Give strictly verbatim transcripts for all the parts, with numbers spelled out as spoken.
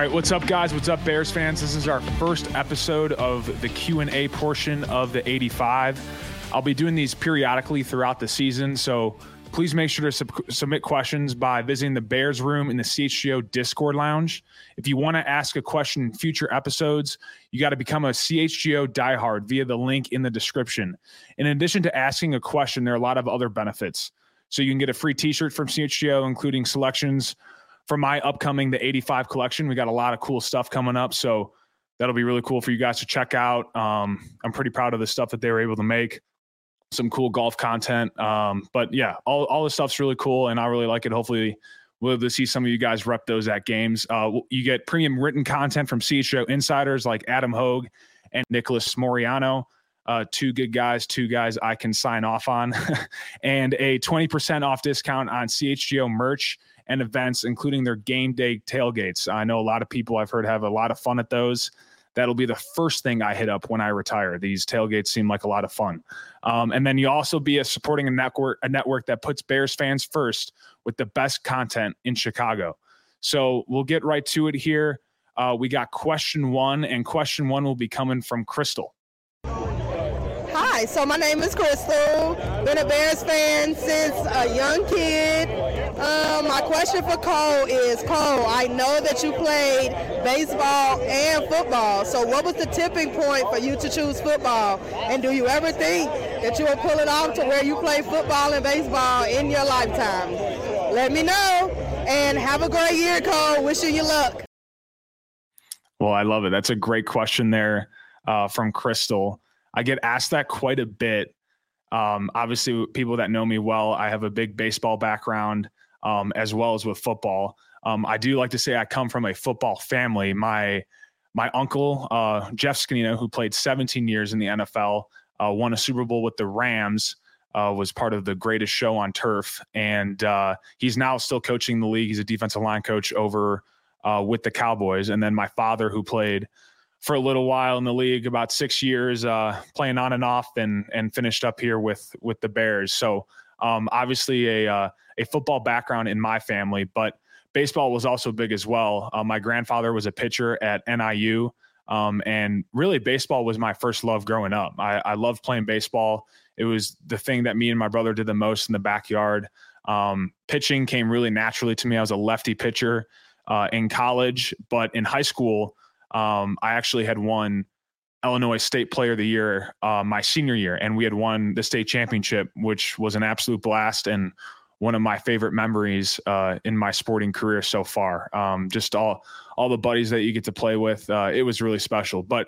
right, what's up, guys? What's up, Bears fans? This is our first episode of the Q and A portion of the eighty-five. I'll be doing these periodically throughout the season, so please make sure to sub- submit questions by visiting the Bears room in the C H G O Discord lounge. If you want to ask a question in future episodes, you got to become a C H G O diehard via the link in the description. In addition to asking a question, there are a lot of other benefits. So you can get a free t-shirt from C H G O, including selections for my upcoming The eighty-five collection. We got a lot of cool stuff coming up, so that'll be really cool for you guys to check out. Um, I'm pretty proud of the stuff that they were able to make. Some cool golf content. Um, but yeah, all, all this stuff's really cool, and I really like it. Hopefully we'll be able to see some of you guys rep those at games. Uh, you get premium written content from C H G O insiders like Adam Hogue and Nicholas Moriano. Uh, two good guys, two guys I can sign off on, and a twenty percent off discount on C H G O merch and events, including their game day tailgates. I know a lot of people I've heard have a lot of fun at those. That'll be the first thing I hit up when I retire. These tailgates seem like a lot of fun. Um, and then you also be a supporting a network, a network that puts Bears fans first with the best content in Chicago. So we'll get right to it here. Uh, we got question one, and question one will be coming from Crystal. Hi, so my name is Crystal. Been a Bears fan since a young kid. Um, my question for Cole is, Cole, I know that you played baseball and football, so what was the tipping point for you to choose football? And do you ever think that you will pull it off to where you play football and baseball in your lifetime? Let me know, and have a great year, Cole. Wishing you luck. Well, I love it. That's a great question there uh, from Crystal. I get asked that quite a bit. Um, obviously, people that know me well, I have a big baseball background, um, as well as with football. Um, I do like to say I come from a football family. My my uncle, uh, Jeff Scanino, who played seventeen years in the N F L, uh, won a Super Bowl with the Rams, uh, was part of the Greatest Show on Turf. And uh, he's now still coaching the league. He's a defensive line coach over uh, with the Cowboys. And then my father, who played for a little while in the league, about six years, uh, playing on and off, and and finished up here with with the Bears. So um, obviously a uh, a football background in my family, but baseball was also big as well. Uh, my grandfather was a pitcher at N I U, um, and really baseball was my first love growing up. I, I loved playing baseball. It was the thing that me and my brother did the most in the backyard. Um, pitching came really naturally to me. I was a lefty pitcher uh, in college, but in high school, Um, I actually had won Illinois State Player of the Year uh, my senior year, and we had won the state championship, which was an absolute blast and one of my favorite memories uh, in my sporting career so far. Um, just all all the buddies that you get to play with, uh, it was really special. But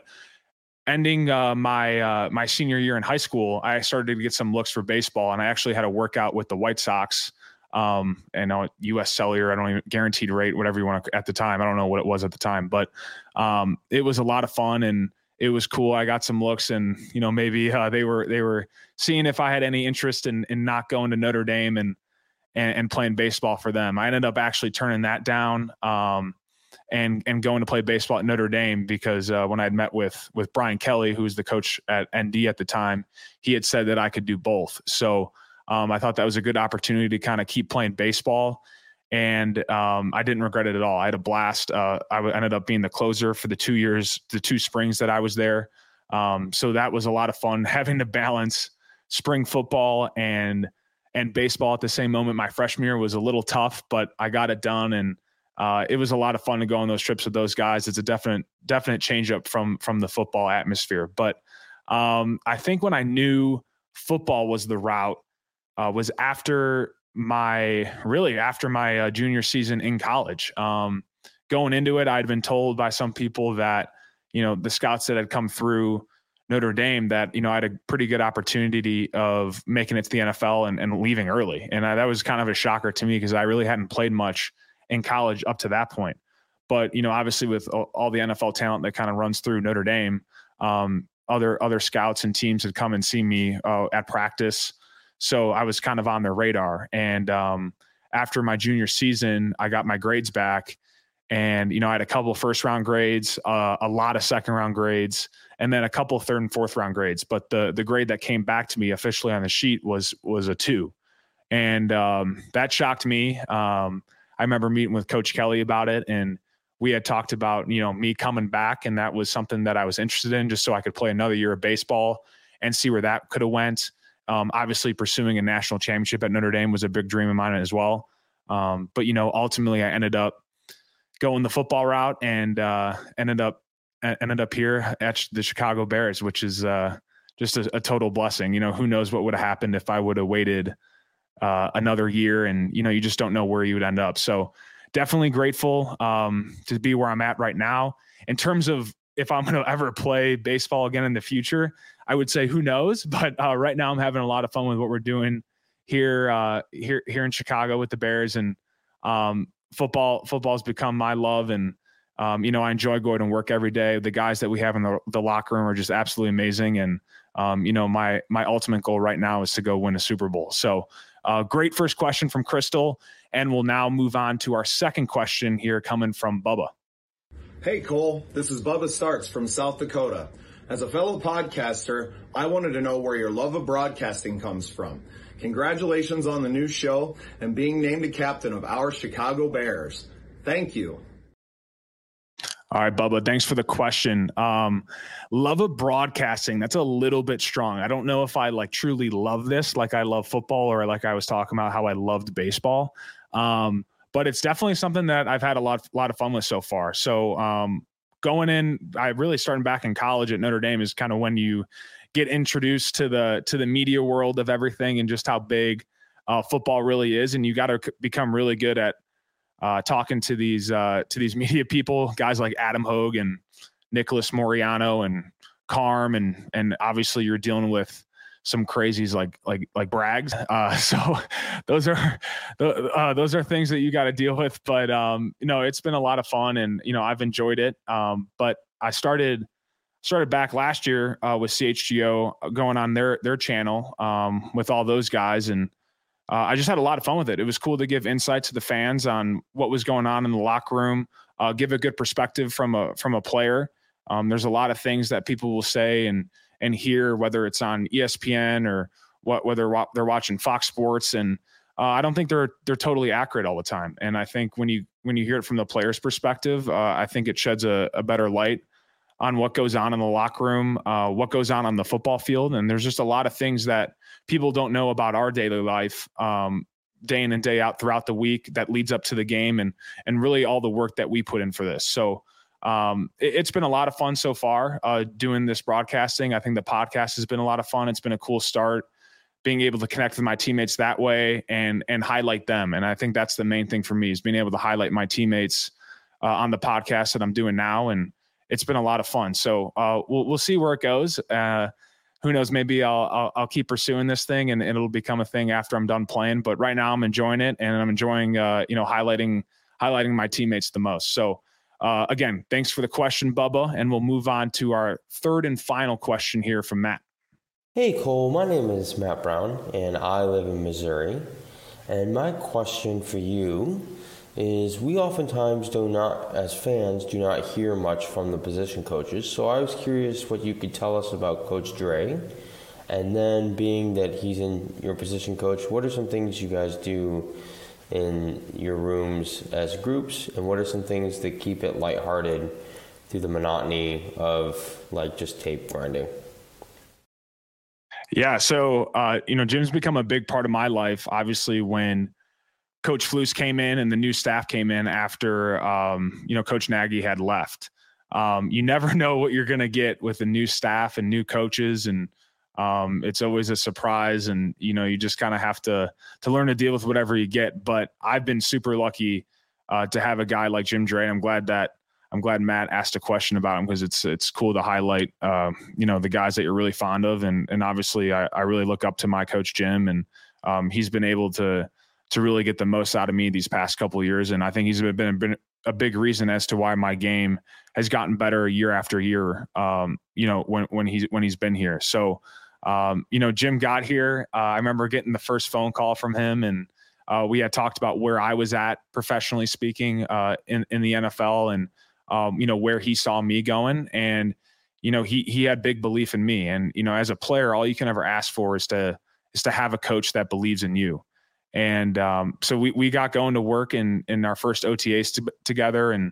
ending uh, my uh, my senior year in high school, I started to get some looks for baseball, and I actually had a workout with the White Sox. Um, and uh, U S Cellular, I don't even guaranteed rate, whatever you want to, at the time. I don't know what it was at the time, but, um, it was a lot of fun and it was cool. I got some looks, and, you know, maybe, uh, they were, they were seeing if I had any interest in, in not going to Notre Dame and, and, and playing baseball for them. I ended up actually turning that down, um, and, and going to play baseball at Notre Dame because, uh, when I'd met with, with Brian Kelly, who was the coach at N D at the time, he had said that I could do both. So, Um, I thought that was a good opportunity to kind of keep playing baseball, and um, I didn't regret it at all. I had a blast. Uh, I w- ended up being the closer for the two years, the two springs that I was there. Um, so that was a lot of fun, having to balance spring football and and baseball at the same moment. My freshman year was a little tough, but I got it done, and uh, it was a lot of fun to go on those trips with those guys. It's a definite definite change up from from the football atmosphere. But um, I think when I knew football was the route, Uh, was after my, really after my uh, junior season in college. Um, going into it, I'd been told by some people that, you know, the scouts that had come through Notre Dame that, you know, I had a pretty good opportunity of making it to the N F L and, and leaving early. And I, that was kind of a shocker to me because I really hadn't played much in college up to that point. But, you know, obviously with all, all the N F L talent that kind of runs through Notre Dame, um, other, other scouts and teams had come and seen me uh, at practice. So I was kind of on their radar. And um, after my junior season, I got my grades back, and, you know, I had a couple of first round grades, uh, a lot of second round grades, and then a couple of third and fourth round grades. But the, the grade that came back to me officially on the sheet was, was a two. And um, that shocked me. Um, I remember meeting with Coach Kelly about it, and we had talked about, you know, me coming back, and that was something that I was interested in just so I could play another year of baseball and see where that could have went. Um, obviously pursuing a national championship at Notre Dame was a big dream of mine as well. Um, but, you know, ultimately I ended up going the football route and uh, ended up ended up here at the Chicago Bears, which is uh, just a, a total blessing. You know, who knows what would have happened if I would have waited uh, another year, and, you know, you just don't know where you would end up. So definitely grateful um, to be where I'm at right now. In terms of if I'm going to ever play baseball again in the future, I would say who knows, but uh, right now I'm having a lot of fun with what we're doing here, uh, here, here in Chicago with the Bears, and um, football, football has become my love. And, um, you know, I enjoy going to work every day. The guys that we have in the, the locker room are just absolutely amazing. And, um, you know, my, my ultimate goal right now is to go win a Super Bowl. So uh, great first question from Crystal. And we'll now move on to our second question here coming from Bubba. Hey, Cole, this is Bubba Starks from South Dakota. As a fellow podcaster, I wanted to know where your love of broadcasting comes from. Congratulations on the new show and being named a captain of our Chicago Bears. Thank you. All right, Bubba, thanks for the question. Um, love of broadcasting, that's a little bit strong. I don't know if I like truly love this like I love football, or like I was talking about how I loved baseball. Um, but it's definitely something that I've had a lot, lot of fun with so far. So um, going in, I really starting back in college at Notre Dame is kind of when you get introduced to the to the media world of everything and just how big uh, football really is. And you got to c- become really good at uh, talking to these uh, to these media people, guys like Adam Hogue and Nicholas Moriano and Carm, and and obviously you're dealing with some crazies like like like Braggs. Uh, so those are uh, those are things that you got to deal with. But um, you know, it's been a lot of fun, and you know, I've enjoyed it. Um, but I started started back last year uh, with C H G O, going on their their channel um, with all those guys, and uh, I just had a lot of fun with it. It was cool to give insight to the fans on what was going on in the locker room, uh, give a good perspective from a from a player. Um, there's a lot of things that people will say and and hear, whether it's on E S P N or what, whether they're watching Fox Sports. And uh, I don't think they're, they're totally accurate all the time. And I think when you, when you hear it from the player's perspective, uh, I think it sheds a, a better light on what goes on in the locker room, uh, what goes on on the football field. And there's just a lot of things that people don't know about our daily life, um, day in and day out throughout the week that leads up to the game, and, and really all the work that we put in for this. So, Um, it, it's been a lot of fun so far uh, doing this broadcasting. I think the podcast has been a lot of fun. It's been a cool start, being able to connect with my teammates that way and and highlight them. And I think that's the main thing for me, is being able to highlight my teammates uh, on the podcast that I'm doing now. And it's been a lot of fun. So uh, we'll we'll see where it goes. Uh, who knows? Maybe I'll, I'll I'll keep pursuing this thing, and it'll become a thing after I'm done playing. But right now, I'm enjoying it, and I'm enjoying uh, you know highlighting highlighting my teammates the most. So. Uh, again, thanks for the question, Bubba, and we'll move on to our third and final question here from Matt. Hey, Cole, my name is Matt Brown, and I live in Missouri. And my question for you is, we oftentimes do not, as fans, do not hear much from the position coaches. So I was curious what you could tell us about Coach Dre. And then, being that he's in your position coach, what are some things you guys do in your rooms as groups, and what are some things that keep it lighthearted through the monotony of like just tape grinding? Yeah. So, uh, you know, Jim's become a big part of my life. Obviously, when Coach Flus came in and the new staff came in after, um, you know, Coach Nagy had left, um, you never know what you're going to get with the new staff and new coaches. And, Um, it's always a surprise, and, you know, you just kind of have to, to learn to deal with whatever you get. But I've been super lucky uh, to have a guy like Jim Dre. I'm glad that I'm glad Matt asked a question about him, because it's, it's cool to highlight, uh, you know, the guys that you're really fond of. And, and obviously I, I really look up to my coach, Jim, and um, he's been able to, to really get the most out of me these past couple of years. And I think he's been, been a big reason as to why my game has gotten better year after year, um, you know, when, when he's, when he's been here. So, Um, you know, Jim got here. Uh, I remember getting the first phone call from him, and uh, we had talked about where I was at professionally speaking uh, in, in the N F L, and, um, you know, where he saw me going. And, you know, he, he had big belief in me. And, you know, as a player, all you can ever ask for is to, is to have a coach that believes in you. And um, so we, we got going to work in, in our first O T As to, together. And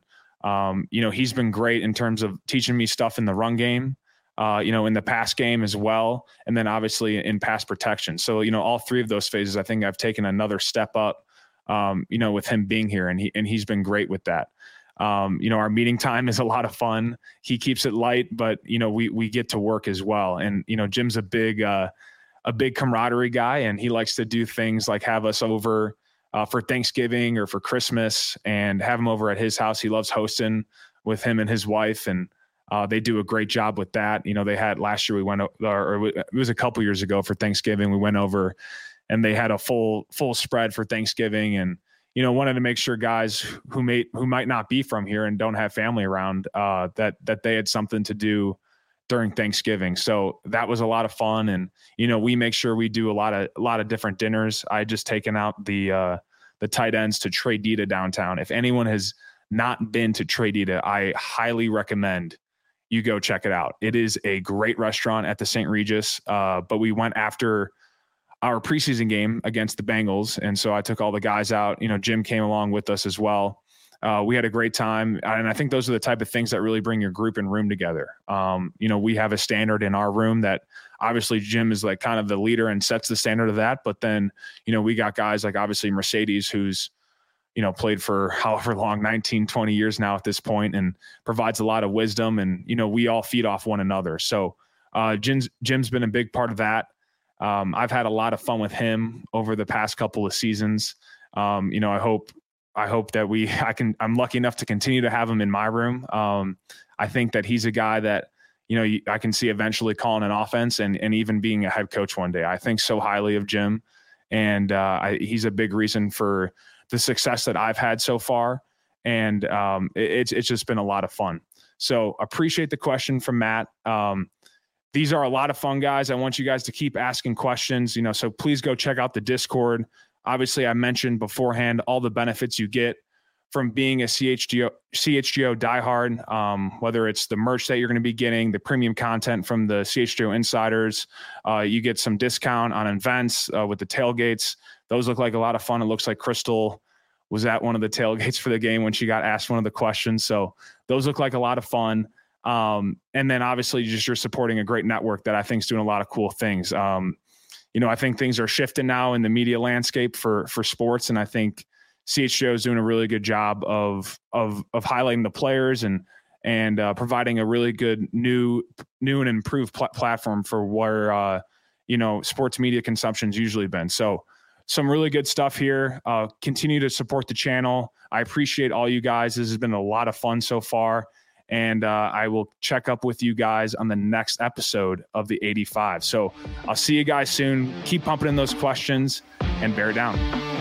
Um, you know, he's been great in terms of teaching me stuff in the run game, uh, you know, in the pass game as well. And then obviously in pass protection. So, you know, all three of those phases, I think I've taken another step up, um, you know, with him being here, and he, and he's been great with that. Um, you know, our meeting time is a lot of fun. He keeps it light, but you know, we, we get to work as well. And, you know, Jim's a big, uh, a big camaraderie guy, and he likes to do things like have us over uh, for Thanksgiving or for Christmas and have him over at his house. He loves hosting with him and his wife, and uh, they do a great job with that. You know, they had last year we went, or it was a couple years ago for Thanksgiving, we went over and they had a full, full spread for Thanksgiving, and, you know, wanted to make sure guys who may, who might not be from here and don't have family around, uh, that, that they had something to do during Thanksgiving. So that was a lot of fun. And, you know, we make sure we do a lot of, a lot of different dinners. I just taken out the, uh, the tight ends to Tres Dita downtown. If anyone has not been to Tres Dita, I highly recommend you go check it out. It is a great restaurant at the Saint Regis. Uh, but we went after our preseason game against the Bengals. And so I took all the guys out, you know, Jim came along with us as well. Uh, we had a great time. And I think those are the type of things that really bring your group and room together. Um, you know, we have a standard in our room that obviously Jim is like kind of the leader and sets the standard of that. But then, you know, we got guys like obviously Mercedes, who's, you know, played for however long, nineteen, twenty years now at this point, and provides a lot of wisdom. And, you know, we all feed off one another. So uh, Jim's, Jim's been a big part of that. Um, I've had a lot of fun with him over the past couple of seasons. Um, you know, I hope, I hope that we, I can, I'm lucky enough to continue to have him in my room. Um, I think that he's a guy that, you know, I can see eventually calling an offense and, and even being a head coach one day. I think so highly of Jim, and uh, I, he's a big reason for the success that I've had so far. And um, it, it's, it's just been a lot of fun. So appreciate the question from Matt. Um, these are a lot of fun, guys. I want you guys to keep asking questions, you know, so please go check out the Discord. Obviously, I mentioned beforehand all the benefits you get from being a C H G O, C H G O diehard, um, whether it's the merch that you're going to be getting, the premium content from the C H G O insiders. Uh, you get some discount on events uh, with the tailgates. Those look like a lot of fun. It looks like Crystal was at one of the tailgates for the game when she got asked one of the questions. So those look like a lot of fun. Um, and then obviously just you're supporting a great network that I think is doing a lot of cool things. Um, You know, I think things are shifting now in the media landscape for for sports, and I think C H G O is doing a really good job of of of highlighting the players and and uh, providing a really good new new and improved pl- platform for where uh, you know sports media consumption's usually been. So some really good stuff here. Uh, continue to support the channel. I appreciate all you guys. This has been a lot of fun so far. And uh, I will check up with you guys on the next episode of the eighty-five. So I'll see you guys soon. Keep pumping in those questions and bear down.